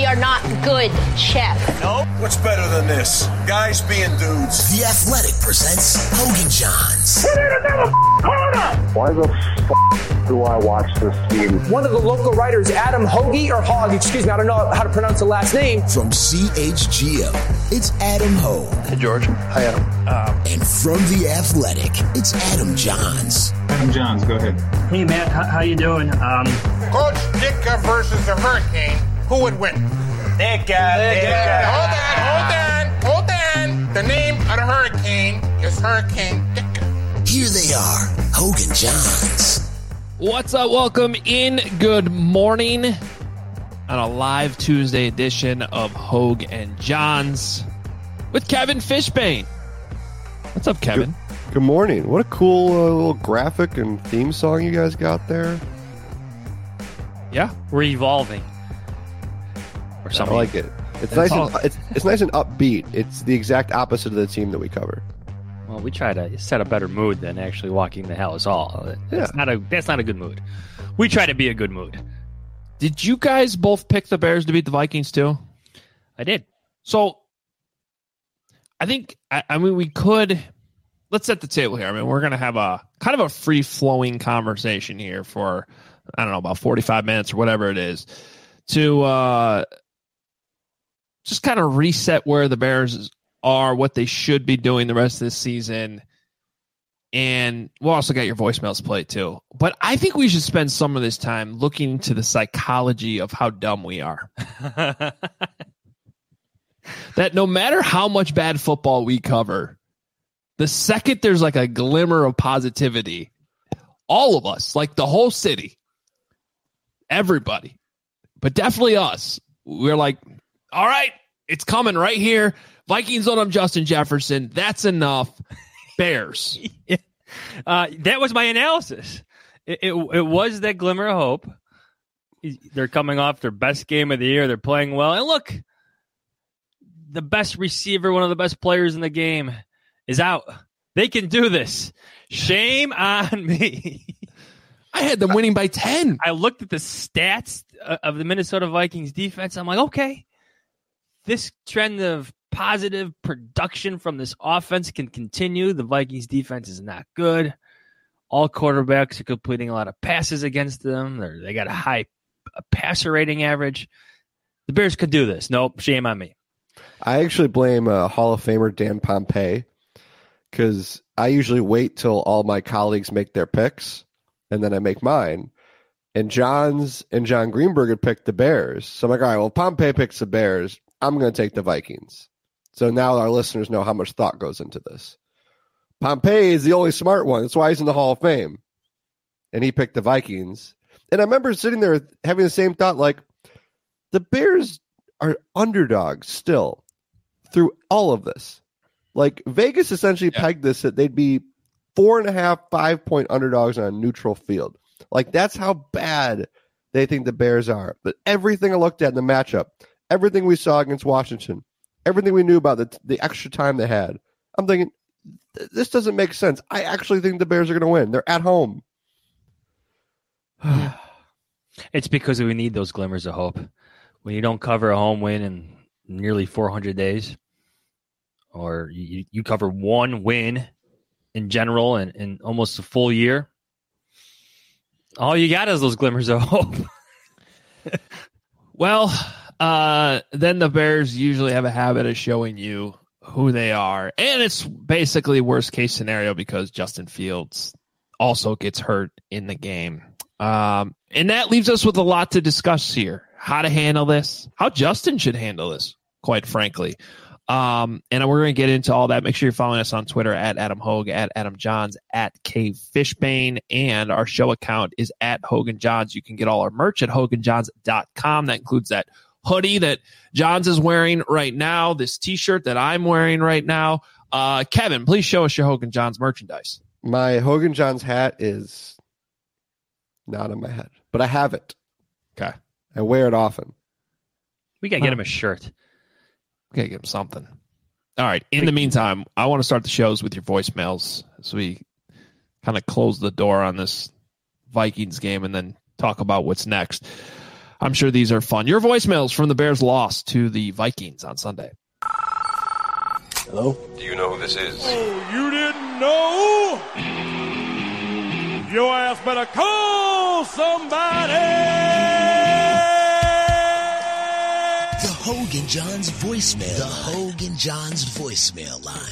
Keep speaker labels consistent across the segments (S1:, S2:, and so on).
S1: are not good, Chef.
S2: No? What's better than this? Guys being dudes.
S3: The Athletic presents Hoge & Jahns.
S4: Why the f*** do I watch this team?
S5: One of the local writers, Adam Hoge, or Hogg, excuse me, I don't know how to pronounce the last name.
S3: From CHGO, it's Adam Hoge.
S6: Hey, George. Hi, Adam.
S3: And from The Athletic, it's Adam Jahns.
S7: Adam Jahns, go ahead.
S8: Hey, Matt, how you doing?
S9: Coach Ditka versus the Hurricane, who would win?
S2: Ditka.
S9: Hold on. The name of the Hurricane is Hurricane Ditka.
S3: Here they are, Hoge & Jahns.
S10: What's up? Welcome in. Good morning on a live Tuesday edition of Hoge & Jahns with Kevin Fishbane. What's up, Kevin?
S6: Good morning. What a cool little graphic and theme song you guys got there.
S10: Yeah,
S8: we're evolving. Or something.
S6: I like it. It's nice. It's nice and upbeat. It's the exact opposite of the team that we cover.
S8: Well, we try to set a better mood than actually walking the Hallis Hall. That's not a good mood. We try to be a good mood.
S10: Did you guys both pick the Bears to beat the Vikings too?
S8: I did.
S10: So I think we could. Let's set the table here. I mean, we're going to have a kind of a free-flowing conversation here for, I don't know, about 45 minutes or whatever it is to just kind of reset where the Bears are, what they should be doing the rest of this season. And we'll also get your voicemails played too. But I think we should spend some of this time looking into the psychology of how dumb we are. That no matter how much bad football we cover, the second there's like a glimmer of positivity, all of us, like the whole city, everybody, but definitely us, we're like, all right, it's coming right here. Vikings don't have Justin Jefferson. That's enough. Bears.
S8: That was my analysis. It was that glimmer of hope. They're coming off their best game of the year. They're playing well. And look, the best receiver, one of the best players in the game, is out. They can do this. Shame on me.
S10: I had them winning by 10.
S8: I looked at the stats of the Minnesota Vikings defense. I'm like, okay, this trend of positive production from this offense can continue. The Vikings defense is not good. All quarterbacks are completing a lot of passes against them. They got a high passer rating average. The Bears could do this. Nope, shame on me.
S6: I actually blame Hall of Famer Dan Pompei, because I usually wait till all my colleagues make their picks, and then I make mine. And Johns and John Greenberg had picked the Bears. So I'm like, all right, well, Pompei picks the Bears. I'm going to take the Vikings. So now our listeners know how much thought goes into this. Pompei is the only smart one. That's why he's in the Hall of Fame. And he picked the Vikings. And I remember sitting there having the same thought, like, the Bears are underdogs still through all of this. Like, Vegas essentially pegged this that they'd be 4.5, 5-point underdogs on a neutral field. Like, that's how bad they think the Bears are. But everything I looked at in the matchup, everything we saw against Washington, everything we knew about the extra time they had, I'm thinking, this doesn't make sense. I actually think the Bears are going to win. They're at home.
S8: It's because we need those glimmers of hope. When you don't cover a home win in nearly 400 days, or you cover one win in general in almost a full year, all you got is those glimmers of hope.
S10: Well, then the Bears usually have a habit of showing you who they are. And it's basically worst case scenario because Justin Fields also gets hurt in the game. And that leaves us with a lot to discuss here. How to handle this, how Justin should handle this, quite frankly. And we're going to get into all that. Make sure you're following us on Twitter at Adam Hoge, at Adam Jahns, at K Fishbane, and our show account is at Hoge & Jahns. You can get all our merch at hogeandjahns.com. That includes that hoodie that Jahns is wearing right now, this T-shirt that I'm wearing right now. Kevin, please show us your Hoge & Jahns merchandise.
S6: My Hoge & Jahns hat is not on my head, but I have it.
S10: Okay.
S6: I wear it often.
S8: We got to get him a shirt.
S10: We got to get him something. All right. In the meantime, I want to start the shows with your voicemails as we kind of close the door on this Vikings game and then talk about what's next. I'm sure these are fun. Your voicemails from the Bears' loss to the Vikings on Sunday.
S3: Hello?
S2: Do you know who this is?
S9: Oh, you didn't know? Your ass better call somebody!
S3: The Hogan Johns voicemail. The Hogan Johns voicemail line.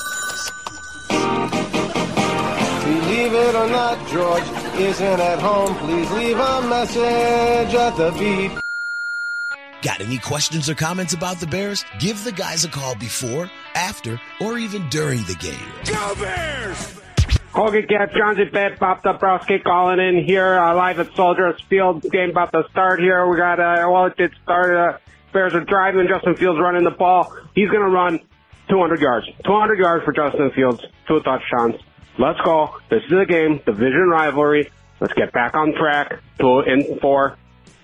S6: Believe it or not, George isn't at home. Please leave a message at the beep.
S3: Got any questions or comments about the Bears? Give the guys a call before, after, or even during the game.
S9: Go Bears!
S7: Hogan, Cap, Johns, and Bed, Bob Dabrowski calling in here live at Soldiers Field. Game about to start here. We got, it did start. Bears are driving. Justin Fields running the ball. He's going to run 200 yards. 200 yards for Justin Fields. 2 touchdowns. Let's go. This is a game. Division rivalry. Let's get back on track. 2-4.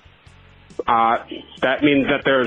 S7: That means that there's,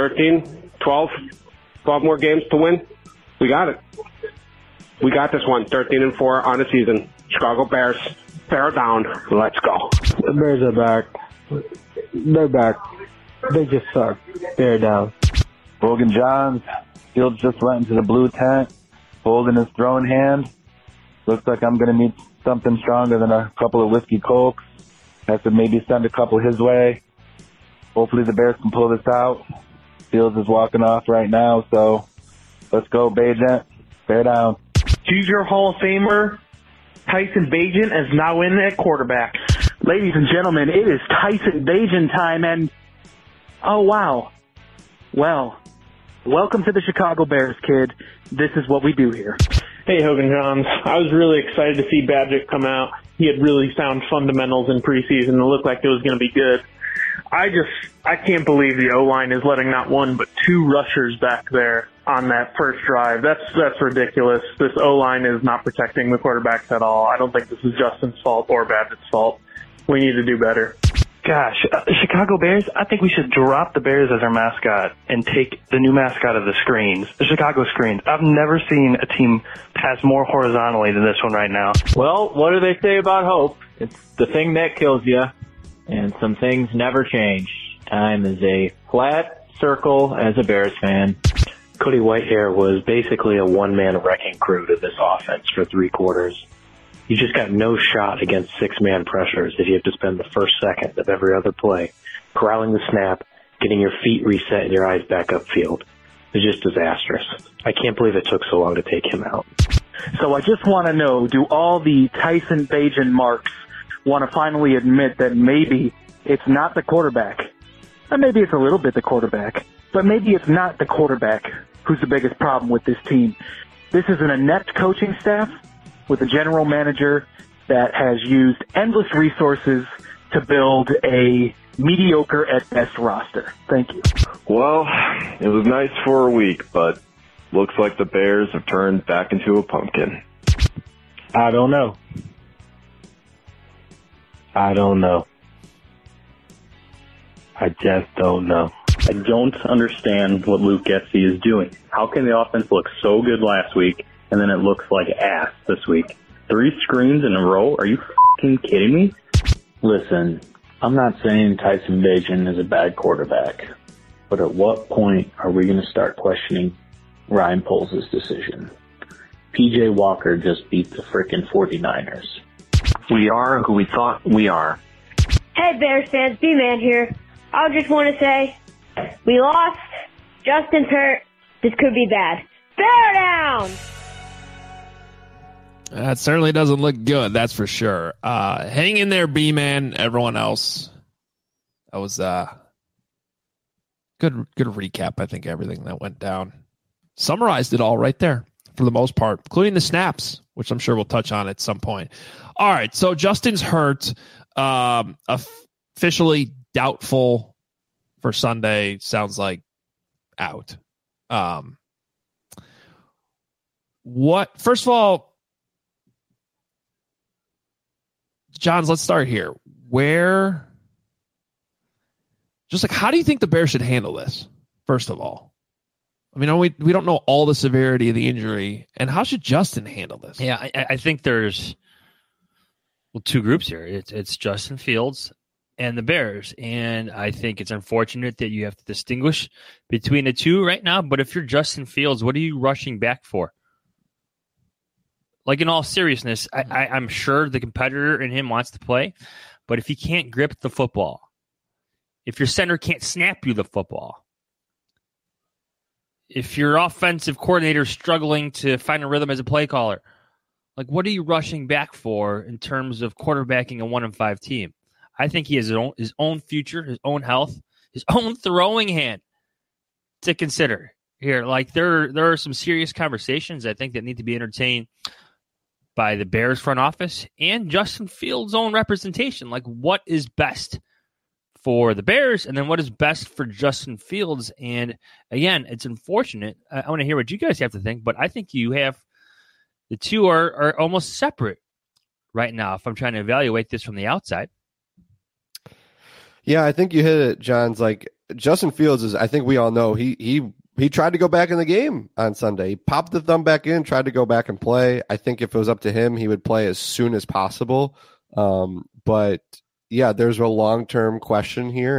S7: 12 more games to win? We got it. We got this one. 13-4 on the season. Chicago Bears. Bear down. Let's go.
S11: The Bears are back. They're back. They just suck. Bear down.
S4: Hogan Johns. Fields just went into the blue tent, holding his throwing hand. Looks like I'm going to need something stronger than a couple of whiskey cokes. Have to maybe send a couple his way. Hopefully the Bears can pull this out. Fields is walking off right now, so let's go, Bagent. Bear down.
S12: Choose your Hall of Famer. Tyson Bagent is now in at quarterback.
S13: Ladies and gentlemen, it is Tyson Bagent time, and oh, wow. Well, welcome to the Chicago Bears, kid. This is what we do here.
S12: Hey, Hogan Johns. I was really excited to see Badgett come out. He had really sound fundamentals in preseason. It looked like it was going to be good. I can't believe the O-line is letting not one but 2 rushers back there on that first drive. That's ridiculous. This O-line is not protecting the quarterbacks at all. I don't think this is Justin's fault or Badgett's fault. We need to do better.
S14: Gosh, Chicago Bears, I think we should drop the Bears as our mascot and take the new mascot of the screens, the Chicago Screens. I've never seen a team pass more horizontally than this one right now.
S15: Well, what do they say about hope? It's the thing that kills you, and some things never change. Time is a flat circle as a Bears fan.
S16: Cody Whitehair was basically a one-man wrecking crew to this offense for 3 quarters. You just got no shot against 6-man pressures if you have to spend the first second of every other play corralling the snap, getting your feet reset and your eyes back upfield. It's just disastrous. I can't believe it took so long to take him out.
S13: So I just want to know, do all the Tyson Bagent marks want to finally admit that maybe it's not the quarterback? Or maybe it's a little bit the quarterback, but maybe it's not the quarterback who's the biggest problem with this team. This is an inept coaching staff with a general manager that has used endless resources to build a mediocre at best roster. Thank you.
S17: Well, it was nice for a week, but looks like the Bears have turned back into a pumpkin.
S11: I don't know. I just don't know.
S18: I don't understand what Luke Getsy is doing. How can the offense look so good last week and then it looks like ass this week? 3 screens in a row? Are you f***ing kidding me?
S15: Listen, I'm not saying Tyson Bagent is a bad quarterback, but at what point are we going to start questioning Ryan Poles' decision? P.J. Walker just beat the frickin' 49ers.
S16: We are who we thought we are.
S19: Hey, Bears fans, B-Man here. I just want to say, we lost. Justin's hurt. This could be bad. Bear down!
S10: That certainly doesn't look good, that's for sure. Hang in there, B-Man, everyone else. That was good recap, I think, everything that went down. Summarized it all right there, for the most part, including the snaps, which I'm sure we'll touch on at some point. All right, so Justin's hurt. Officially doubtful for Sunday. Sounds like out. First of all, Johns, let's start here. How do you think the Bears should handle this, first of all? I mean, we don't know all the severity of the injury, and how should Justin handle this?
S8: Yeah, I think there's 2 groups here. It's Justin Fields and the Bears. And I think it's unfortunate that you have to distinguish between the two right now. But if you're Justin Fields, what are you rushing back for? Like, in all seriousness, I'm sure the competitor in him wants to play, but if he can't grip the football, if your center can't snap you the football, if your offensive coordinator is struggling to find a rhythm as a play caller, like, what are you rushing back for in terms of quarterbacking a 1-5 team? I think he has his own future, his own health, his own throwing hand to consider here. Like, there are some serious conversations I think that need to be entertained by the Bears front office and Justin Fields' own representation. Like, what is best for the Bears, and then what is best for Justin Fields? And again, it's unfortunate. I want to hear what you guys have to think, but I think the two are almost separate right now if I'm trying to evaluate this from the outside.
S6: Yeah, I think you hit it, John's. Like, Justin Fields is, I think we all know, he tried to go back in the game on Sunday. He popped the thumb back in, tried to go back and play. I think if it was up to him, he would play as soon as possible. But yeah, there's a long-term question here.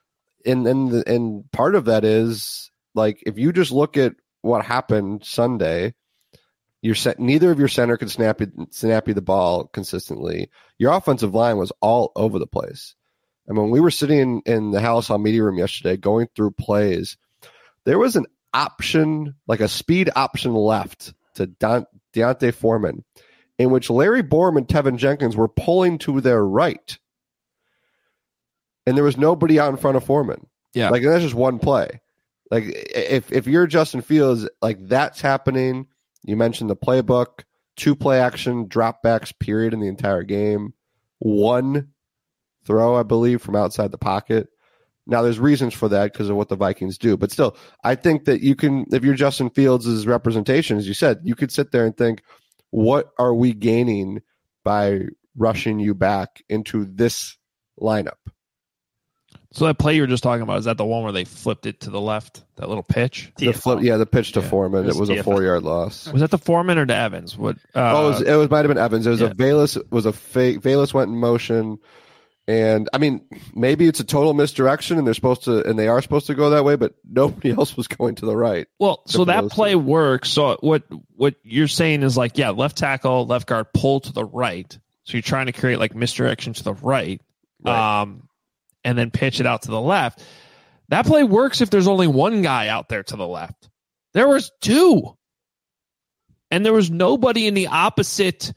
S6: And part of that is, like, if you just look at what happened Sunday, neither of your center could snap you the ball consistently. Your offensive line was all over the place. And when we were sitting in the Halas Hall media room yesterday going through plays, there was an option, like a speed option left to D'Onta Foreman, in which Larry Borom and Tevin Jenkins were pulling to their right. And there was nobody out in front of Foreman.
S10: Yeah.
S6: Like, that's just one play. Like, if you're Justin Fields, like, that's happening. You mentioned the playbook, 2 play action, dropbacks, period, in the entire game. 1 throw, I believe, from outside the pocket. Now, there's reasons for that because of what the Vikings do. But still, I think that you can, if you're Justin Fields' representation, as you said, you could sit there and think, what are we gaining by rushing you back into this lineup?
S10: So that play you were just talking about, is that the one where they flipped it to the left? That little pitch?
S6: The pitch to Foreman. It was a 4-yard loss.
S10: Was that the Foreman or to Evans? What?
S6: It might have been Evans. It was a Velus. It was a fake. Velus went in motion, and I mean, maybe it's a total misdirection, and they are supposed to go that way, but nobody else was going to the right.
S10: Well, so that play works. So what you're saying is, like, yeah, left tackle, left guard, pull to the right. So you're trying to create, like, misdirection to the right. And then pitch it out to the left. That play works if there's only one guy out there to the left. There was 2. And there was nobody in the opposite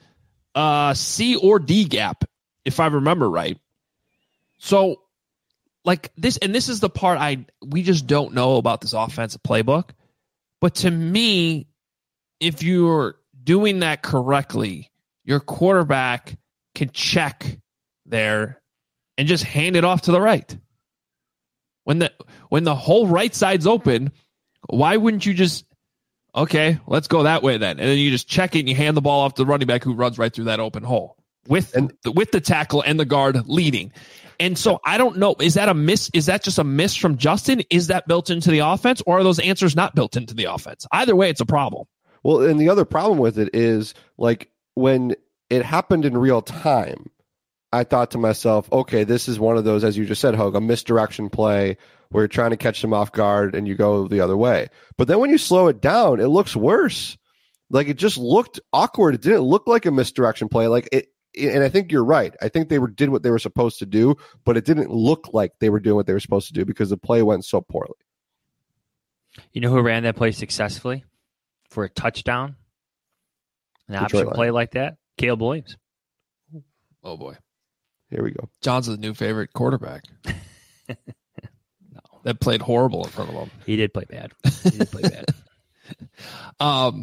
S10: C or D gap, if I remember right. So, like, this is the part we just don't know about this offensive playbook. But to me, if you're doing that correctly, your quarterback can check there and just hand it off to the right. When the whole right side's open, why wouldn't you just, okay, let's go that way then? And then you just check it and you hand the ball off to the running back who runs right through that open hole with the tackle and the guard leading. And so I don't know, is that a miss? Is that just a miss from Justin? Is that built into the offense, or are those answers not built into the offense? Either way, it's a problem.
S6: Well, and the other problem with it is, like, when it happened in real time, I thought to myself, okay, this is one of those, as you just said, Hogue, a misdirection play where you're trying to catch them off guard and you go the other way. But then when you slow it down, it looks worse. Like, it just looked awkward. It didn't look like a misdirection play. Like, and I think you're right. I think they did what they were supposed to do, but it didn't look like they were doing what they were supposed to do because the play went so poorly.
S8: You know who ran that play successfully for a touchdown? An option play like that? Caleb Williams.
S10: Oh, boy.
S6: Here we go.
S10: John's a new favorite quarterback. No, that played horrible in front of him.
S8: He did play bad.
S10: All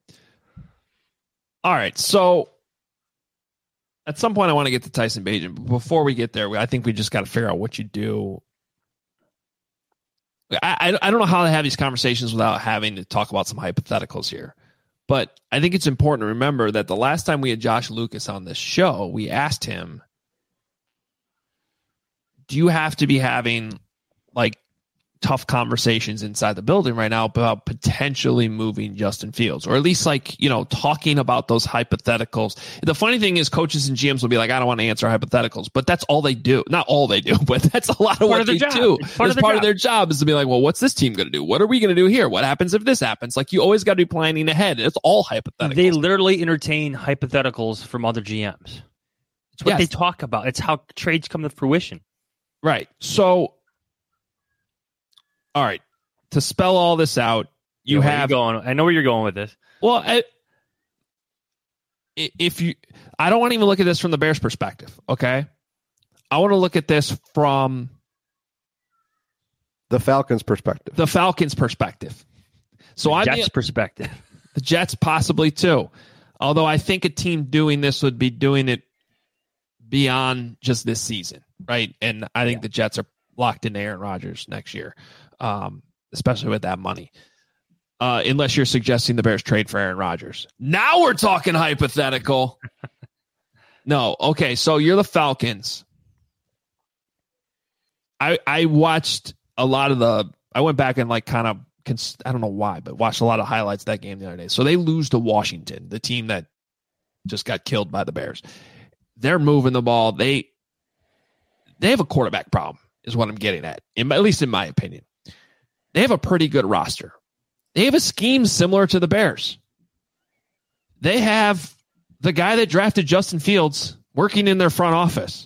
S10: right, so at some point I want to get to Tyson Bagent. But before we get there, I think we just got to figure out what you do. I don't know how to have these conversations without having to talk about some hypotheticals here. But I think it's important to remember that the last time we had Josh Lucas on this show, we asked him, do you have to be having, like, tough conversations inside the building right now about potentially moving Justin Fields, or at least talking about those hypotheticals. The funny thing is coaches and GMs will be like, I don't want to answer hypotheticals, but that's all they do. Not all they do, but that's a lot of what they do. Part of their job is to be like, well, what's this team going to do? What are we going to do here? What happens if this happens? Like, you always got to be planning ahead. It's all hypotheticals.
S8: They literally entertain hypotheticals from other GMs. It's what they talk about. It's how trades come to fruition.
S10: Right. So, all right, to spell all this out, I
S8: know where you're going with this.
S10: Well, I don't want to even look at this from the Bears' perspective, okay? I want to look at this from
S6: the Falcons' perspective.
S10: So
S8: the Jets' perspective.
S10: The Jets possibly too. Although I think a team doing this would be doing it beyond just this season, right? And I think the Jets are locked into Aaron Rodgers next year. Especially with that money. Unless you're suggesting the Bears trade for Aaron Rodgers. Now we're talking hypothetical. No. Okay. So you're the Falcons. I watched a lot of I went back and I don't know why, but watched a lot of highlights of that game the other day. So they lose to Washington, the team that just got killed by the Bears. They're moving the ball. They have a quarterback problem is what I'm getting at least in my opinion. They have a pretty good roster. They have a scheme similar to the Bears. They have the guy that drafted Justin Fields working in their front office.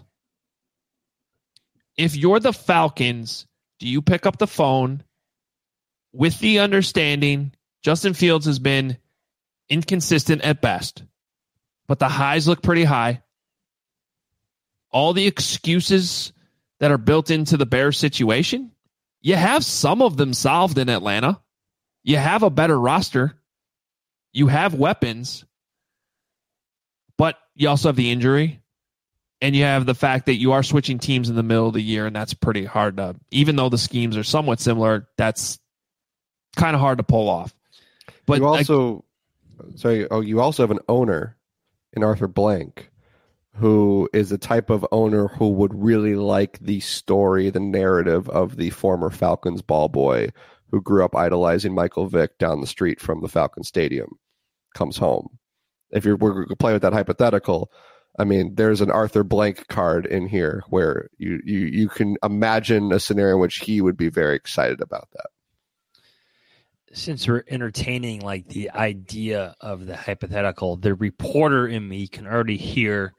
S10: If you're the Falcons, do you pick up the phone with the understanding Justin Fields has been inconsistent at best, but the highs look pretty high? All the excuses that are built into the Bears situation, you have some of them solved in Atlanta. You have a better roster. You have weapons. But you also have the injury. And you have the fact that you are switching teams in the middle of the year, and that's pretty hard to, even though the schemes are somewhat similar, that's kind of hard to pull off. But
S6: you also have an owner in Arthur Blank who is a type of owner who would really like the story, the narrative of the former Falcons ball boy who grew up idolizing Michael Vick down the street from the Falcon Stadium comes home. If we're going to play with that hypothetical, I mean, there's an Arthur Blank card in here where you can imagine a scenario in which he would be very excited about that.
S8: Since we're entertaining the idea of the hypothetical, the reporter in me can already hear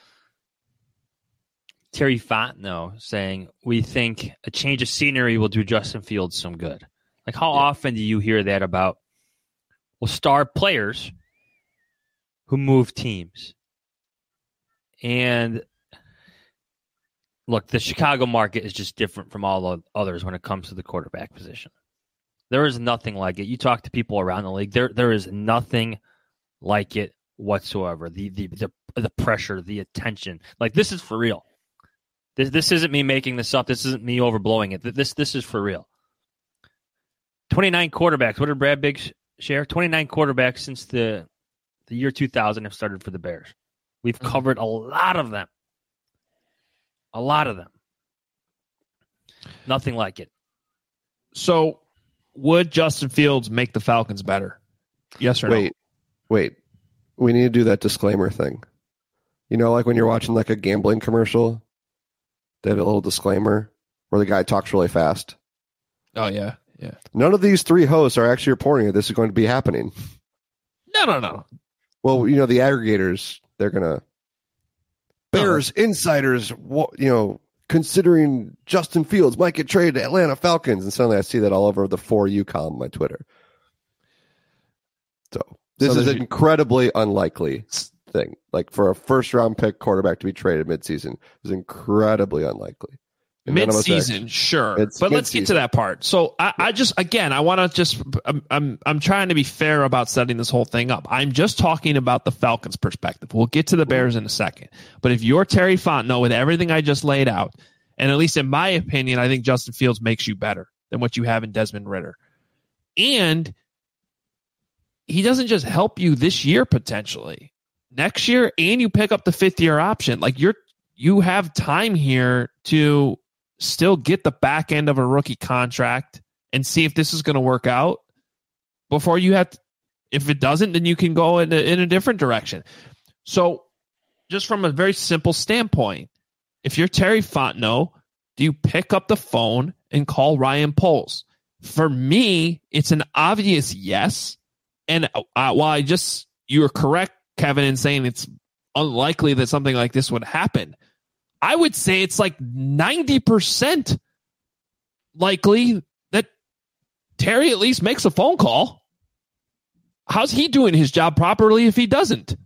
S8: Terry Fontenot saying, we think a change of scenery will do Justin Fields some good. How often do you hear that about star players who move teams? And look, the Chicago market is just different from all the others when it comes to the quarterback position. There is nothing like it. You talk to people around the league, there is nothing like it whatsoever. The pressure, the attention. This is for real. This isn't me making this up. This isn't me overblowing it. This is for real. 29 quarterbacks. What did Brad Biggs share? 29 quarterbacks since the year 2000 have started for the Bears. We've covered a lot of them. A lot of them. Nothing like it.
S10: So, would Justin Fields make the Falcons better? Yes or no?
S6: Wait. We need to do that disclaimer thing. You know, like when you're watching a gambling commercial, they have a little disclaimer where the guy talks really fast.
S10: Oh, yeah. Yeah.
S6: None of these three hosts are actually reporting that this is going to be happening.
S10: No.
S6: Well, the aggregators, they're going to... Bears insiders, considering Justin Fields might get traded to Atlanta Falcons. And suddenly I see that all over the For You column on my Twitter. So this is an incredibly unlikely thing. For a first-round pick quarterback to be traded midseason is incredibly unlikely.
S10: Mid-season, sure. But let's get to that part. So I want to I'm trying to be fair about setting this whole thing up. I'm just talking about the Falcons' perspective. We'll get to the Bears in a second. But if you're Terry Fontenot with everything I just laid out, and at least in my opinion, I think Justin Fields makes you better than what you have in Desmond Ridder. And he doesn't just help you this year potentially. Next year, and you pick up the fifth-year option. You have time here to still get the back end of a rookie contract and see if this is going to work out before you have to, if it doesn't, then you can go in a different direction. So just from a very simple standpoint, if you're Terry Fontenot, do you pick up the phone and call Ryan Poles? For me, it's an obvious yes. And while you were correct, Kevin, in saying it's unlikely that something like this would happen, I would say it's like 90% likely that Terry at least makes a phone call. How's he doing his job properly if he doesn't?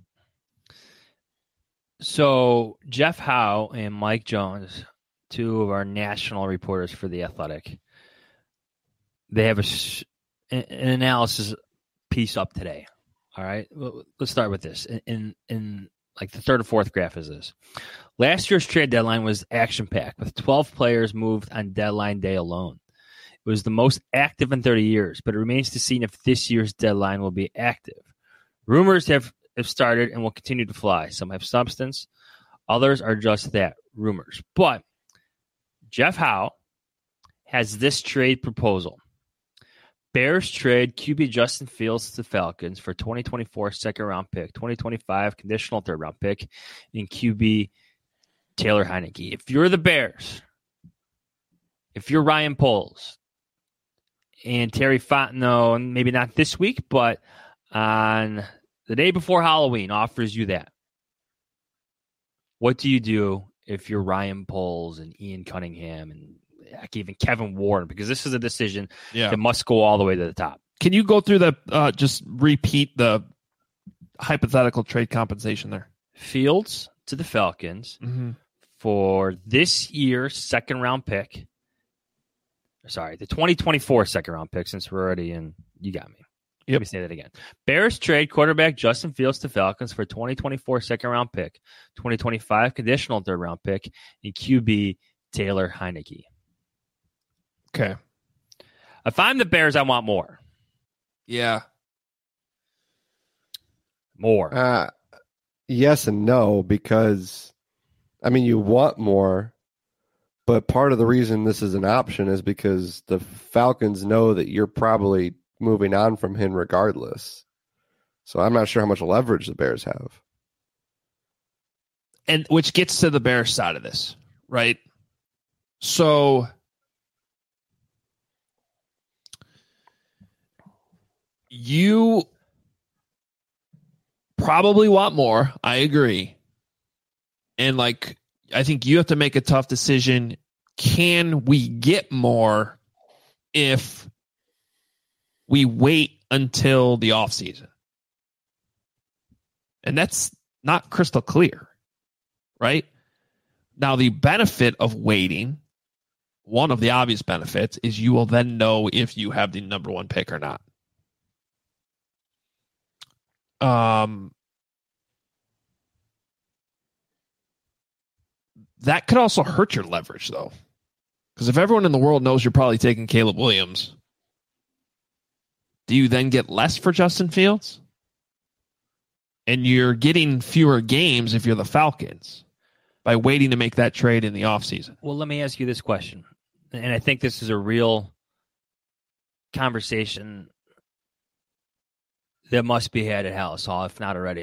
S8: So Jeff Howe and Mike Jones, two of our national reporters for The Athletic, they have an analysis piece up today. All right, let's start with this. In like the third or fourth graph is this. Last year's trade deadline was action-packed, with 12 players moved on deadline day alone. It was the most active in 30 years, but it remains to be seen if this year's deadline will be active. Rumors have started and will continue to fly. Some have substance. Others are just that, rumors. But Jeff Howe has this trade proposal. Bears trade QB Justin Fields to the Falcons for 2024 second-round pick, 2025 conditional third-round pick, and QB Taylor Heineke. If you're the Bears, if you're Ryan Poles, and Terry Fontenot, and maybe not this week, but on the day before Halloween, offers you that, what do you do if you're Ryan Poles and Ian Cunningham and even Kevin Warren? Because this is a decision that must go all the way to the top.
S10: Can you go through just repeat the hypothetical trade compensation there?
S8: Fields to the Falcons for this year's second-round pick. Sorry, the 2024 second-round pick, since we're already in. You got me. Let me say that again. Bears trade quarterback Justin Fields to Falcons for 2024 second-round pick, 2025 conditional third-round pick, and QB Taylor Heineke.
S10: Okay.
S8: If I'm the Bears, I want more.
S10: Yeah.
S8: More.
S6: Yes and no, because, I mean, you want more, but part of the reason this is an option is because the Falcons know that you're probably moving on from him regardless. So I'm not sure how much leverage the Bears have.
S10: And which gets to the Bears side of this, right? So you probably want more. I agree. And I think you have to make a tough decision. Can we get more if we wait until the offseason? And that's not crystal clear, right? Now, the benefit of waiting, one of the obvious benefits, is you will then know if you have the number one pick or not. That could also hurt your leverage, though. Because if everyone in the world knows you're probably taking Caleb Williams, do you then get less for Justin Fields? And you're getting fewer games if you're the Falcons by waiting to make that trade in the offseason.
S8: Well, let me ask you this question. And I think this is a real conversation that must be had at Halas Hall, if not already.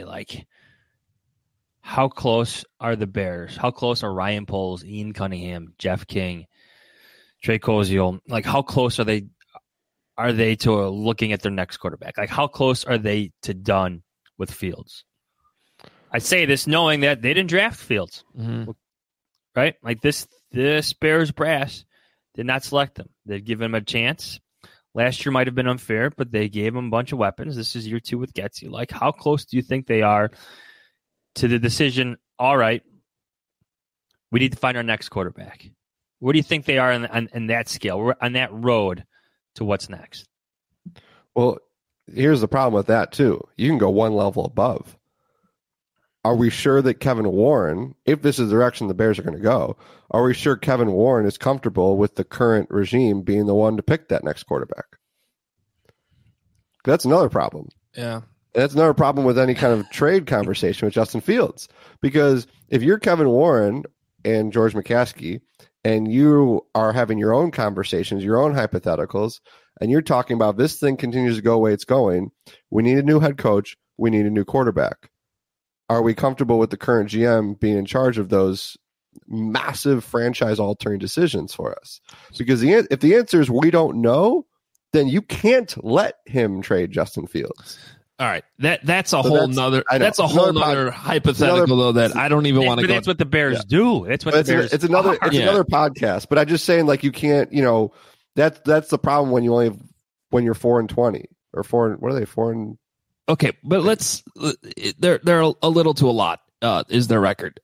S8: How close are the Bears? How close are Ryan Poles, Ian Cunningham, Jeff King, Trey Koziol? How close are they to looking at their next quarterback? How close are they to done with Fields? I say this knowing that they didn't draft Fields, right? This Bears brass did not select him. They'd give him a chance. Last year might have been unfair, but they gave him a bunch of weapons. This is year 2 with Getsy. How close do you think they are to the decision, all right, we need to find our next quarterback? Where do you think they are in that scale? We're on that road to what's next.
S6: Well, here's the problem with that, too. You can go one level above. Are we sure that Kevin Warren, if this is the direction the Bears are going to go, are we sure Kevin Warren is comfortable with the current regime being the one to pick that next quarterback? That's another problem.
S10: Yeah.
S6: That's another problem with any kind of trade conversation with Justin Fields. Because if you're Kevin Warren and George McCaskey and you are having your own conversations, your own hypotheticals, and you're talking about this thing continues to go the way it's going. We need a new head coach. We need a new quarterback. Are we comfortable with the current GM being in charge of those massive franchise-altering decisions for us? Because if the answer is we don't know, then you can't let him trade Justin Fields.
S10: All right, that's a whole nother hypothetical though that I don't even want to go.
S8: That's what the Bears do. That's what the Bears.
S6: It's another podcast. But I'm just saying, like, you can't. That's the problem when you're 4-20 or 4. What are they 4?
S10: Okay, but they're a little to a lot. Is their record?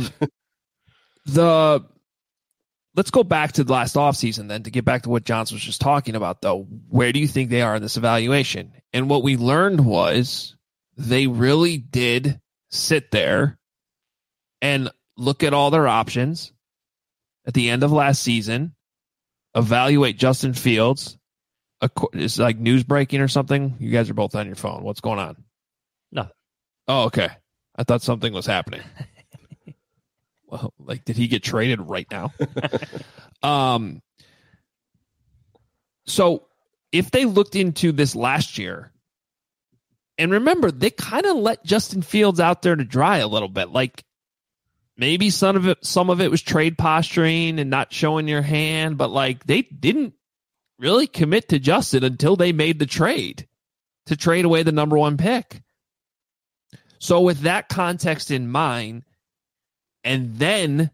S10: Let's go back to the last offseason then to get back to what Johnson was just talking about, though. Where do you think they are in this evaluation? And what we learned was they really did sit there and look at all their options at the end of last season, evaluate Justin Fields. It's like news breaking or something. You guys are both on your phone. What's going on?
S8: Nothing. Oh,
S10: okay. I thought something was happening. Well, like, did he get traded right now? So if they looked into this last year, and remember, they kind of let Justin Fields out there to dry a little bit. Like, maybe some of it was trade posturing and not showing your hand, but like they didn't really commit to Justin until they made the trade to trade away the number 1 pick. So with that context in mind, and then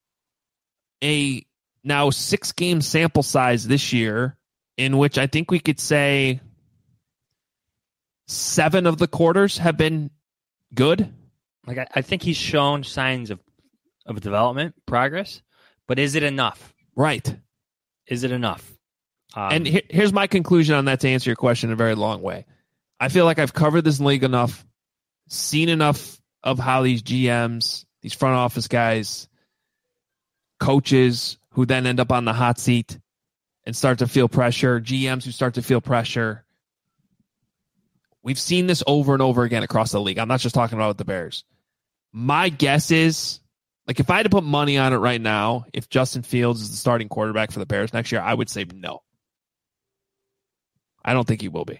S10: a now 6-game sample size this year, in which I think we could say 7 of the quarters have been good.
S8: Like, I think he's shown signs of development, progress, but is it enough?
S10: Right.
S8: Is it enough?
S10: And here's my conclusion on that to answer your question in a very long way. I feel like I've covered this league enough, seen enough of how these GMs, these front office guys, coaches who then end up on the hot seat and start to feel pressure, GMs who start to feel pressure. We've seen this over and over again across the league. I'm not just talking about the Bears. My guess is, like, if I had to put money on it right now, if Justin Fields is the starting quarterback for the Bears next year, I would say no. I don't think he will be.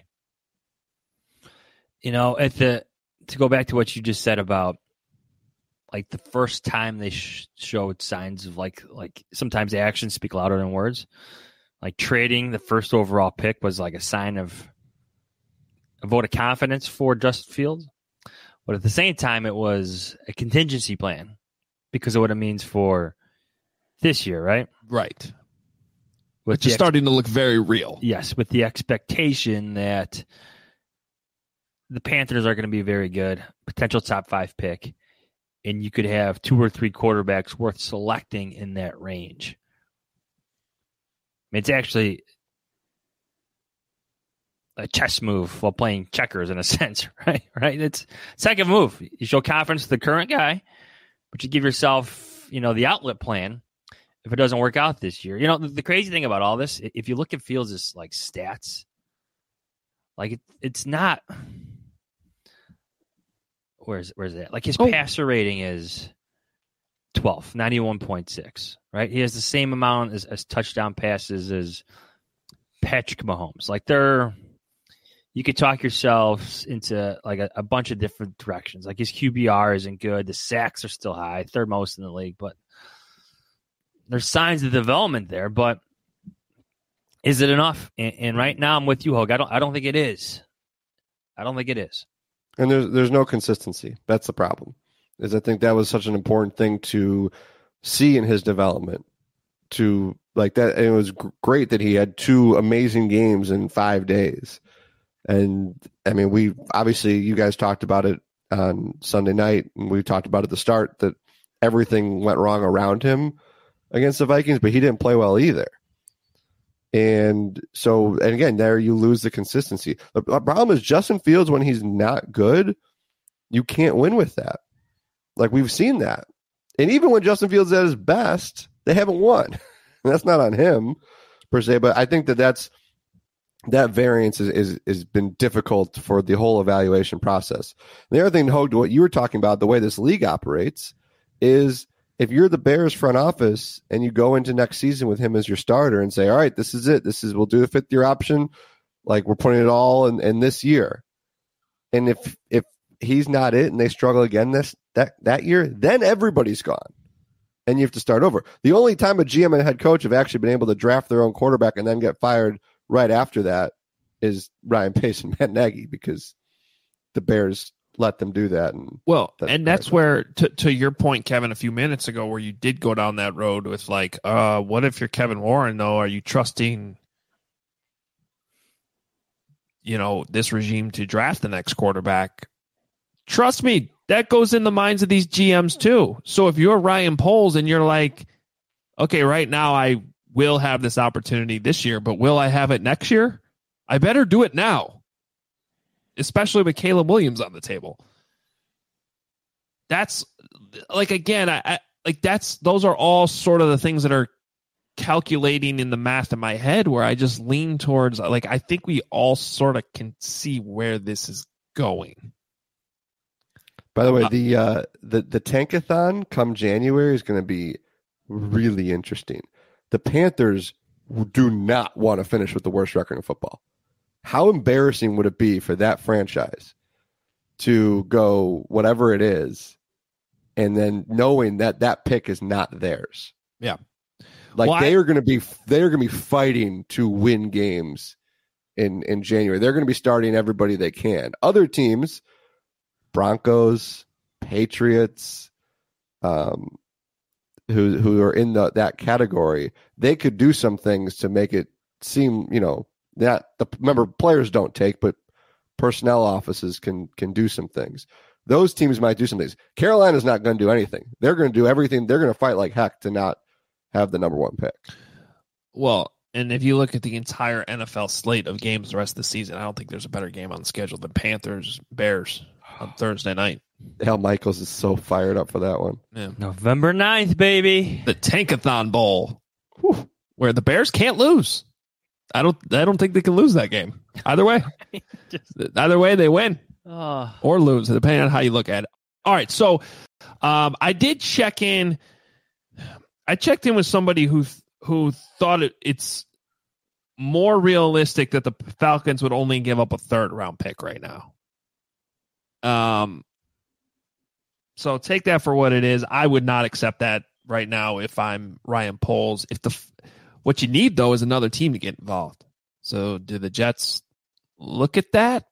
S8: To go back to what you just said about, like, the first time they showed signs of like sometimes the actions speak louder than words. Like, trading the first overall pick was like a sign of a vote of confidence for Justin Fields. But at the same time, it was a contingency plan because of what it means for this year, right?
S10: Right. Which is starting to look very real.
S8: Yes, with the expectation that the Panthers are going to be very good, potential top 5 pick, and you could have 2 or 3 quarterbacks worth selecting in that range. It's actually a chess move while playing checkers in a sense, right? It's second move. You show confidence to the current guy, but you give yourself, the outlet plan if it doesn't work out this year. The crazy thing about all this, if you look at Fields' like stats, like it's not. Where's that? Like, his passer rating is 12, 91.6, right? He has the same amount as touchdown passes as Patrick Mahomes. Like, you could talk yourselves into like a bunch of different directions. Like, his QBR isn't good. The sacks are still high, 3rd most in the league, but there's signs of development there. But is it enough? And right now I'm with you, Hogue. I don't think it is. I don't think it is.
S6: And there's no consistency. That's the problem. Is I think that was such an important thing to see in his development. To like that, and it was great that he had 2 amazing games in 5 days. And I mean, we obviously, you guys talked about it on Sunday night, and we talked about at the start that everything went wrong around him against the Vikings, but he didn't play well either. And so, and again, there you lose the consistency. The problem is Justin Fields, when he's not good, you can't win with that. Like, we've seen that. And even when Justin Fields is at his best, they haven't won. And that's not on him per se, but I think that variance is been difficult for the whole evaluation process. And the other thing, Hogue, what you were talking about, the way this league operates, is if you're the Bears front office and you go into next season with him as your starter and say, all right, this is it. We'll do a 5th-year option. Like, we're putting it all in this year. And if he's not it and they struggle again that year, then everybody's gone. And you have to start over. The only time a GM and a head coach have actually been able to draft their own quarterback and then get fired right after that is Ryan Pace and Matt Nagy, because the Bears let them do that. And
S10: that's where, to your point, Kevin, a few minutes ago, where you did go down that road with like, what if you're Kevin Warren, though? Are you trusting, this regime to draft the next quarterback? Trust me, that goes in the minds of these GMs too. So if you're Ryan Poles and you're like, okay, right now I will have this opportunity this year, but will I have it next year? I better do it now. Especially with Caleb Williams on the table. That's like, again, I those are all sort of the things that are calculating in the math in my head, where I just lean towards, like, I think we all sort of can see where this is going.
S6: By the way, the Tankathon come January is going to be really interesting. The Panthers do not want to finish with the worst record in football. How embarrassing would it be for that franchise to go whatever it is, and then knowing that pick is not theirs?
S10: Yeah,
S6: like they are going to be fighting to win games in January. They're going to be starting everybody they can. Other teams, Broncos, Patriots, who are in that category, they could do some things to make it seem, remember, players don't take, but personnel offices can do some things. Those teams might do some things. Carolina's not going to do anything. They're going to do everything. They're going to fight like heck to not have the number 1 pick.
S10: Well, and if you look at the entire NFL slate of games the rest of the season, I don't think there's a better game on the schedule than Panthers-Bears on Thursday night.
S6: Al Michaels is so fired up for that one.
S10: Yeah.
S8: November 9th, baby.
S10: The Tankathon Bowl, where the Bears can't lose. I don't think they can lose that game. Either way. Either way, they win or lose, depending on how you look at it. All right, so I did check in. I checked in with somebody who thought it's more realistic that the Falcons would only give up a 3rd-round pick right now. So take that for what it is. I would not accept that right now if I'm Ryan Poles. What you need, though, is another team to get involved. So do the Jets look at that?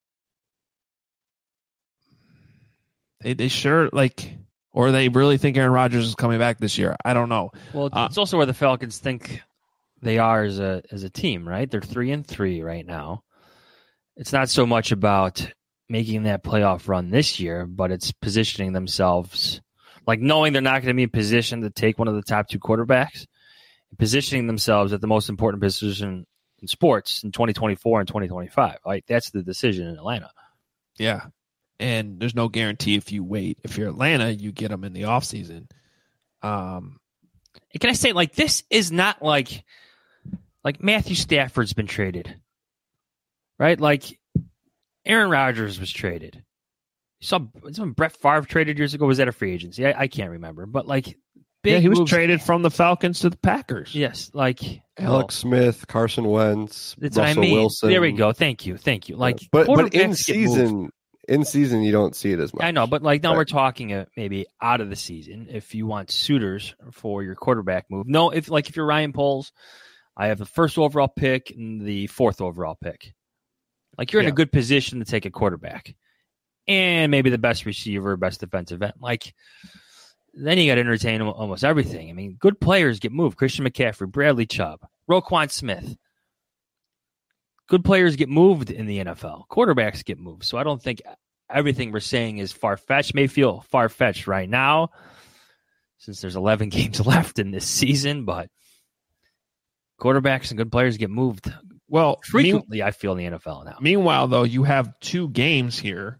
S10: They sure, or they really think Aaron Rodgers is coming back this year? I don't know.
S8: Well, it's also where the Falcons think they are as a team, right? They're 3-3 right now. It's not so much about making that playoff run this year, but it's positioning themselves, like knowing they're not going to be in position to take one of the top 2 quarterbacks, positioning themselves at the most important position in sports in 2024 and 2025. Right? That's the decision in Atlanta.
S10: Yeah. And there's no guarantee if you wait. If you're Atlanta, you get them in the offseason.
S8: Can I say, this is not like Matthew Stafford's been traded, right? Aaron Rodgers was traded. You saw when Brett Favre traded years ago. Was that a free agency? I can't remember. But
S10: he was traded from the Falcons to the Packers.
S8: Yes,
S6: Alex Smith, Carson Wentz,
S8: that's
S6: Russell
S8: what I mean.
S6: Wilson.
S8: There we go. Thank you.
S6: But in season, you don't see it as much.
S8: I know, but now we're talking maybe out of the season. If you want suitors for your quarterback move, no. If you're Ryan Poles, I have the 1st overall pick and the 4th overall pick. You're in a good position to take a quarterback and maybe the best receiver, best defensive end. Then you got to entertain almost everything. I mean, good players get moved. Christian McCaffrey, Bradley Chubb, Roquan Smith. Good players get moved in the NFL. Quarterbacks get moved. So I don't think everything we're saying is far-fetched. May feel far-fetched right now since there's 11 games left in this season, but quarterbacks and good players get moved frequently, I feel, in the NFL now.
S10: Meanwhile, though, you have 2 games here,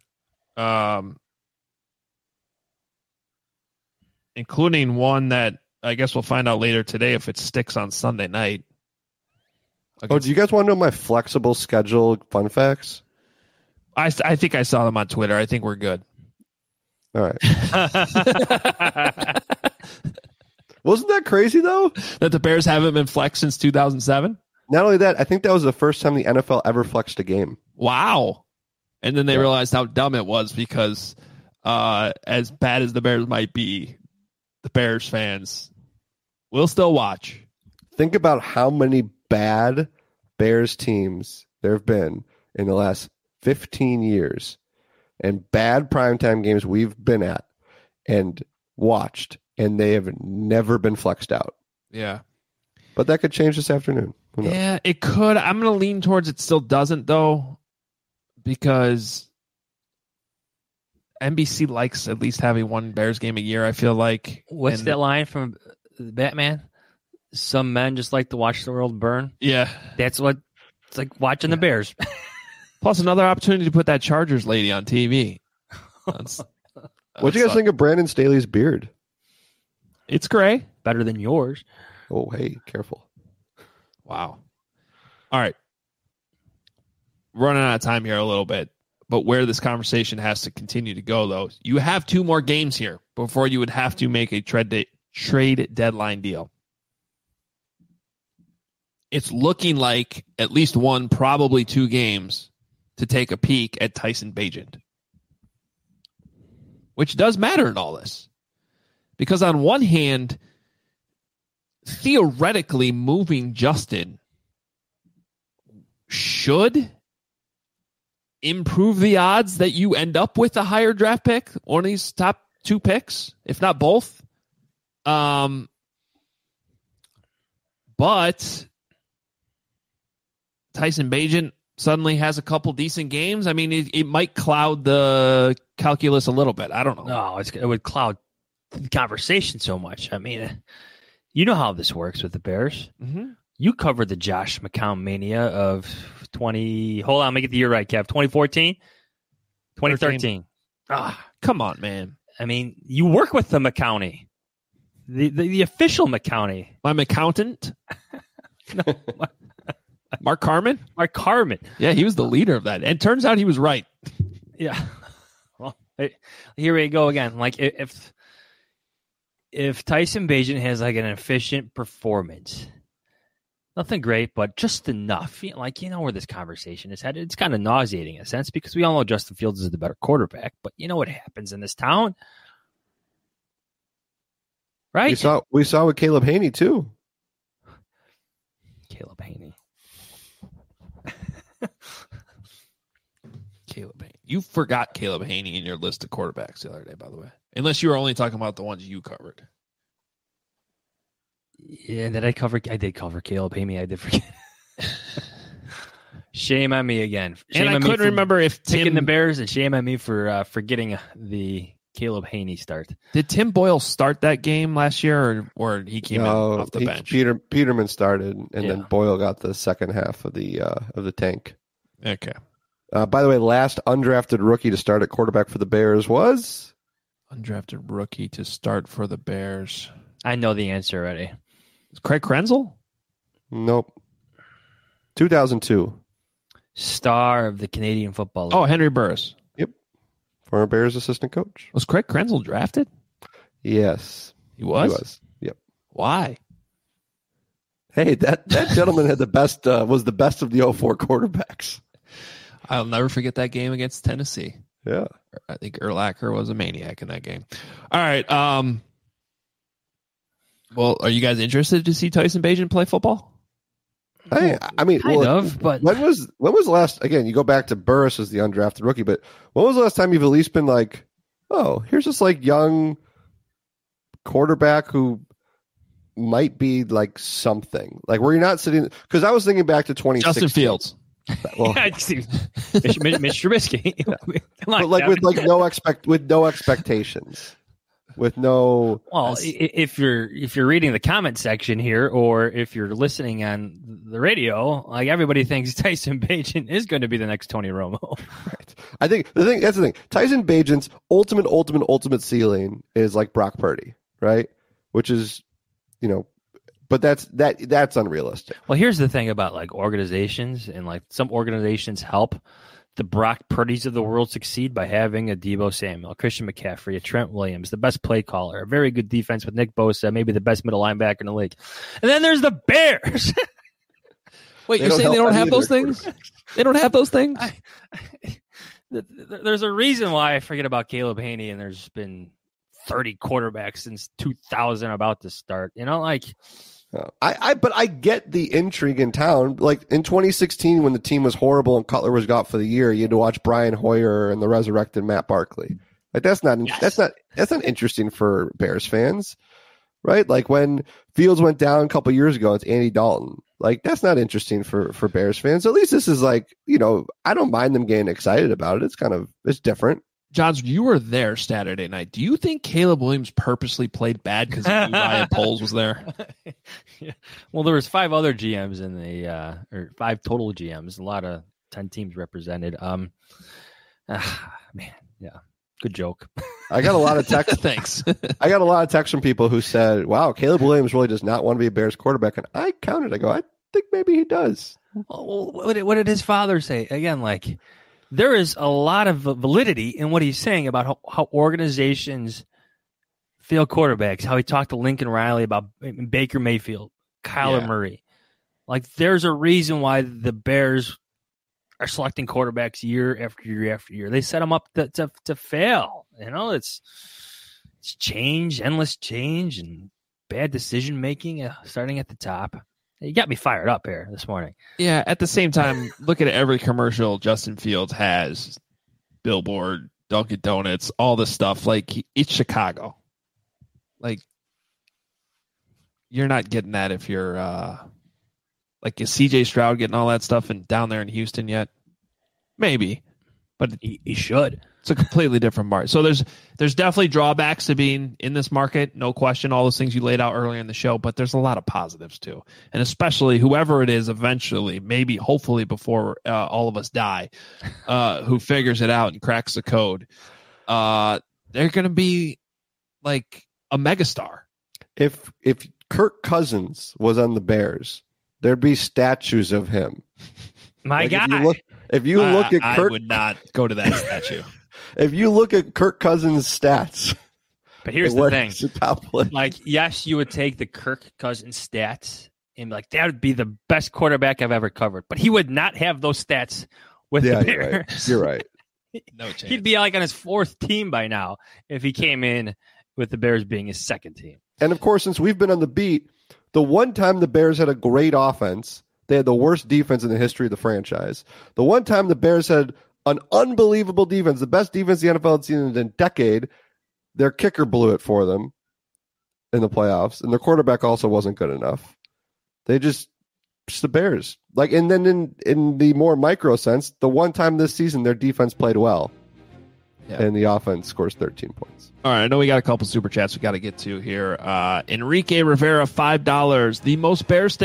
S10: including one that I guess we'll find out later today if it sticks on Sunday night.
S6: Do you guys want to know my flexible schedule fun facts?
S10: I think I saw them on Twitter. I think we're good.
S6: All right. Wasn't that crazy though?
S10: That the Bears haven't been flexed since 2007.
S6: Not only that, I think that was the first time the NFL ever flexed a game.
S10: Wow. And then they realized how dumb it was because as bad as the Bears might be, the Bears fans will still watch.
S6: Think about how many bad Bears teams there have been in the last 15 years and bad primetime games we've been at and watched, and they have never been flexed out.
S10: Yeah.
S6: But that could change this afternoon. Who knows?
S10: Yeah, it could. I'm going to lean towards it still doesn't, though, because NBC likes at least having one Bears game a year, I feel like.
S8: What's that line from Batman? Some men just like to watch the world burn.
S10: Yeah.
S8: That's what it's like watching the Bears.
S10: Plus another opportunity to put that Chargers lady on TV.
S6: What do you guys think of Brandon Staley's beard?
S10: It's gray.
S8: Better than yours.
S6: Oh, hey, careful.
S10: Wow. All right. Running out of time here a little bit, but where this conversation has to continue to go, though, you have 2 more games here before you would have to make a trade deadline deal. It's looking like at least 1, probably 2 games to take a peek at Tyson Bagent, which does matter in all this. Because on one hand, theoretically moving Justin should improve the odds that you end up with a higher draft pick, one of these top 2 picks, if not both. But Tyson Bagent suddenly has a couple decent games. I mean, it might cloud the calculus a little bit. I don't know.
S8: No, it would cloud the conversation so much. I mean, you know how this works with the Bears.
S10: Mm-hmm.
S8: You covered the Josh McCown mania of 20. Hold on, let me get the year right, Kev. 2014? 2013.
S10: Come on, man.
S8: I mean, you work with the McCowney. The official McCowney.
S10: My accountant?
S8: No,
S10: Mark Carman?
S8: Mark Carman.
S10: Yeah, he was the leader of that. And turns out he was right.
S8: Yeah. Well, here we go again. Like, if Tyson Bagent has like an efficient performance, nothing great, but just enough. You know where this conversation is headed. It's kind of nauseating in a sense because we all know Justin Fields is the better quarterback, but you know what happens in this town, right?
S6: We saw with Caleb Haney too.
S8: Caleb Haney.
S10: Caleb Haney. You forgot Caleb Haney in your list of quarterbacks the other day, by the way. Unless you were only talking about the ones you covered.
S8: Yeah, I did cover Caleb Haney. I did forget. Shame on me again. Shame
S10: and I couldn't remember if
S8: taking the Bears, and shame on me for forgetting the Caleb Haney start.
S10: Did Tim Boyle start that game last year, or he came in off the bench?
S6: Peterman started, and then Boyle got the second half of the tank.
S10: Okay.
S6: By the way, last undrafted rookie to start at quarterback for the Bears was?
S10: Undrafted rookie to start for the Bears.
S8: I know the answer already.
S10: Craig Krenzel?
S6: Nope. 2002.
S8: Star of the Canadian Football League.
S10: Oh, Henry Burris.
S6: Yep. Former Bears assistant coach.
S10: Was Craig Krenzel drafted?
S6: Yes.
S10: He was?
S6: He was. Yep.
S10: Why?
S6: Hey, that gentleman had the best was the best of the 04 quarterbacks.
S10: I'll never forget that game against Tennessee.
S6: Yeah.
S10: I think Urlacher was a maniac in that game. All right. Well, are you guys interested to see Tyson Bagent play football?
S6: I mean,
S8: kind of, but
S6: when was the last? Again, you go back to Burris as the undrafted rookie, but when was the last time you've at least been like, oh, here's this like young quarterback who might be like something, like where you're not sitting? Because I was thinking back to 2016.
S10: Justin Fields.
S6: Well,
S8: Mitch Trubisky.
S6: But like with no expectations. With no,
S8: well, if you're reading the comment section here, or if you're listening on the radio, like everybody thinks Tyson Bagent is going to be the next Tony Romo.
S6: Right. I think that's the thing. Tyson Bagent's ultimate ceiling is like Brock Purdy, right? Which is, but that's unrealistic.
S8: Well, here's the thing about like organizations, and like some organizations help the Brock Purdy's of the world succeed by having a Deebo Samuel, a Christian McCaffrey, a Trent Williams, the best play caller, a very good defense with Nick Bosa, maybe the best middle linebacker in the league. And then there's the Bears.
S10: Wait, you're saying they don't have those things? They don't have those things?
S8: There's a reason why I forget about Caleb Haney, and there's been 30 quarterbacks since 2000 about to start. You know, like...
S6: But I get the intrigue in town. Like in 2016, when the team was horrible and Cutler was out for the year, you had to watch Brian Hoyer and the resurrected Matt Barkley. Like that's not interesting for Bears fans, right? Like when Fields went down a couple years ago, it's Andy Dalton. Like that's not interesting for Bears fans. At least this is like, you know, I don't mind them getting excited about it. It's different.
S10: Johns, you were there Saturday night. Do you think Caleb Williams purposely played bad because he knew Ryan Poles was there?
S8: Yeah. Well, there was 5 other GMs in the or 5 total GMs. A lot of 10 teams represented. Man, yeah, good joke.
S6: I got a lot of text.
S10: Thanks.
S6: I got a lot of texts from people who said, "Wow, Caleb Williams really does not want to be a Bears quarterback." And I counted. I go, I think maybe he does.
S8: Well, what did his father say? Again, like. There is a lot of validity in what he's saying about how organizations fail quarterbacks, how he talked to Lincoln Riley about Baker Mayfield, Kyler Murray. Like, there's a reason why the Bears are selecting quarterbacks year after year after year. They set them up to fail. You know, it's change, endless change, and bad decision-making starting at the top. You got me fired up here this morning.
S10: Yeah, at the same time, look at every commercial Justin Fields has. Billboard, Dunkin' Donuts, all this stuff. Like, it's Chicago. Like, you're not getting that if you're, like, is C.J. Stroud getting all that stuff down there in Houston yet? Maybe. But
S8: he should.
S10: It's a completely different market. So there's definitely drawbacks to being in this market, no question, all those things you laid out earlier in the show, but there's a lot of positives too. And especially whoever it is eventually, maybe hopefully before all of us die, who figures it out and cracks the code, they're going to be like a megastar.
S6: If Kirk Cousins was on the Bears, there'd be statues of him.
S8: My guy.
S6: If you look at Kirk,
S10: I would not go to that statue.
S6: If you look at Kirk Cousins' stats,
S8: but here's the thing: like, yes, you would take the Kirk Cousins stats and be like, that would be the best quarterback I've ever covered. But he would not have those stats with the Bears.
S6: You're right.
S10: No chance.
S8: He'd be like on his 4th team by now if he came in with the Bears being his 2nd team.
S6: And of course, since we've been on the beat, the one time the Bears had a great offense, they had the worst defense in the history of the franchise. The one time the Bears had an unbelievable defense, the best defense the NFL had seen in a decade, their kicker blew it for them in the playoffs, and their quarterback also wasn't good enough. They just the Bears. Like, and then in the more micro sense, the one time this season their defense played well, and the offense scores 13 points.
S10: All right, I know we got a couple super chats we got to get to here. Enrique Rivera, $5. The most Bears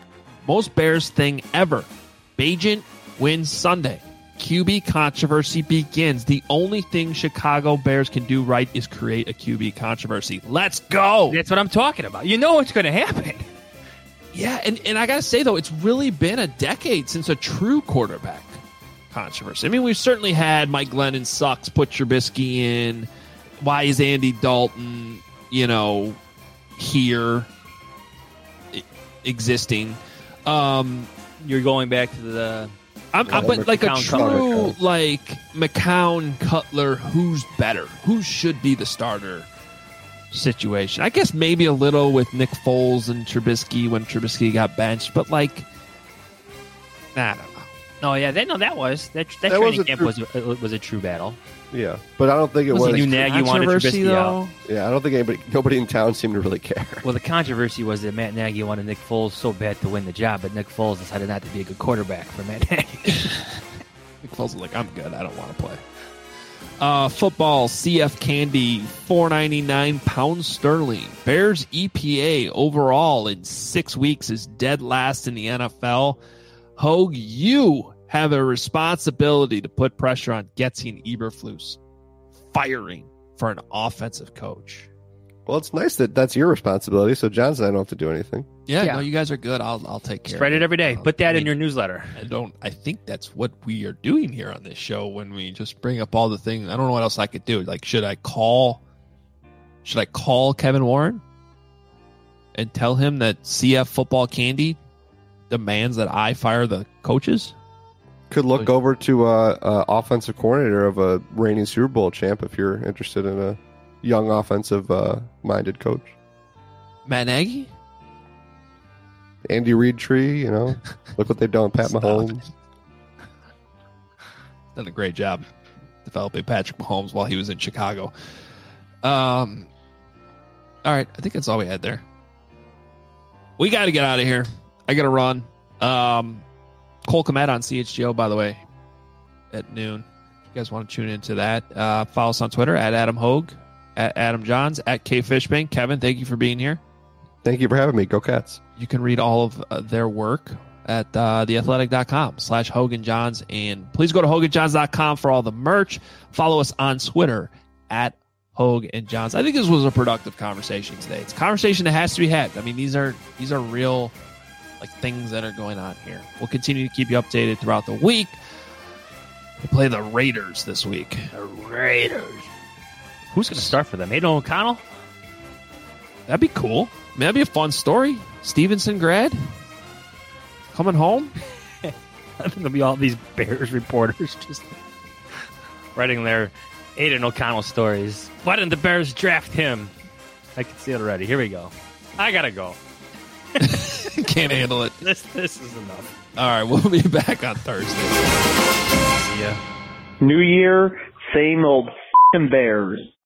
S10: thing ever. Bagent wins Sunday. QB controversy begins. The only thing Chicago Bears can do right is create a QB controversy. Let's go.
S8: That's what I'm talking about. You know what's going to happen.
S10: Yeah, and I got to say, though, it's really been a decade since a true quarterback controversy. I mean, we've certainly had Mike Glennon sucks, put Trubisky in. Why is Andy Dalton, here existing?
S8: You're going back to the...
S10: but like a true, like, McCown, Cutler, who's better? Who should be the starter situation? I guess maybe a little with Nick Foles and Trubisky when Trubisky got benched, but, like, I don't know.
S8: No, yeah, that training camp was a true battle.
S6: Yeah, but I don't think it was.
S8: Knew Nagy wanted Trubisky out.
S6: Yeah, I don't think nobody in town seemed to really care.
S8: Well, the controversy was that Matt Nagy wanted Nick Foles so bad to win the job, but Nick Foles decided not to be a good quarterback for Matt Nagy.
S10: Nick Foles was like, I'm good. I don't want to play. Football, CF Candy, $4.99 pounds sterling. Bears EPA overall in 6 weeks is dead last in the NFL. Hogue, you have a responsibility to put pressure on Getsy and Eberflus firing for an offensive coach.
S6: Well, it's nice that that's your responsibility, so John's and I don't have to do anything.
S10: Yeah, no, you guys are good. I'll take care.
S8: Spread
S10: of
S8: it every day. Put that in your newsletter.
S10: I think that's what we are doing here on this show when we just bring up all the things. I don't know what else I could do. Like, should I call Kevin Warren and tell him that CF Football Candy demands that I fire the coaches?
S6: Could look over to offensive coordinator of a reigning Super Bowl champ if you're interested in a young offensive minded coach.
S10: Matt Nagy?
S6: Andy Reid tree, look what they've done with Pat Mahomes.
S10: Done a great job developing Patrick Mahomes while he was in Chicago. All right, I think that's all we had there. We got to get out of here. I got to run. Cole Kmet on CHGO, by the way, at noon. If you guys want to tune into that, follow us on Twitter at Adam Hogue, at Adam Johns, at K Fishbane. Kevin, thank you for being here.
S6: Thank you for having me. Go Cats.
S10: You can read all of their work at theathletic.com/HoganJohns. And please go to HoganJohns.com for all the merch. Follow us on Twitter at Hogue and Johns. I think this was a productive conversation today. It's a conversation that has to be had. I mean, these are real things that are going on here. We'll continue to keep you updated throughout the week. We'll play the Raiders this week.
S8: The Raiders. Who's going to start for them? Aidan O'Connell?
S10: That'd be cool. I mean, that'd be a fun story. Stevenson grad coming home.
S8: I think there'll be all these Bears reporters just writing their Aidan O'Connell stories. Why didn't the Bears draft him? I can see it already. Here we go. I gotta go.
S10: Can't handle it.
S8: This is enough.
S10: All right, we'll be back on Thursday.
S8: See ya.
S12: New year, same old f***ing Bears.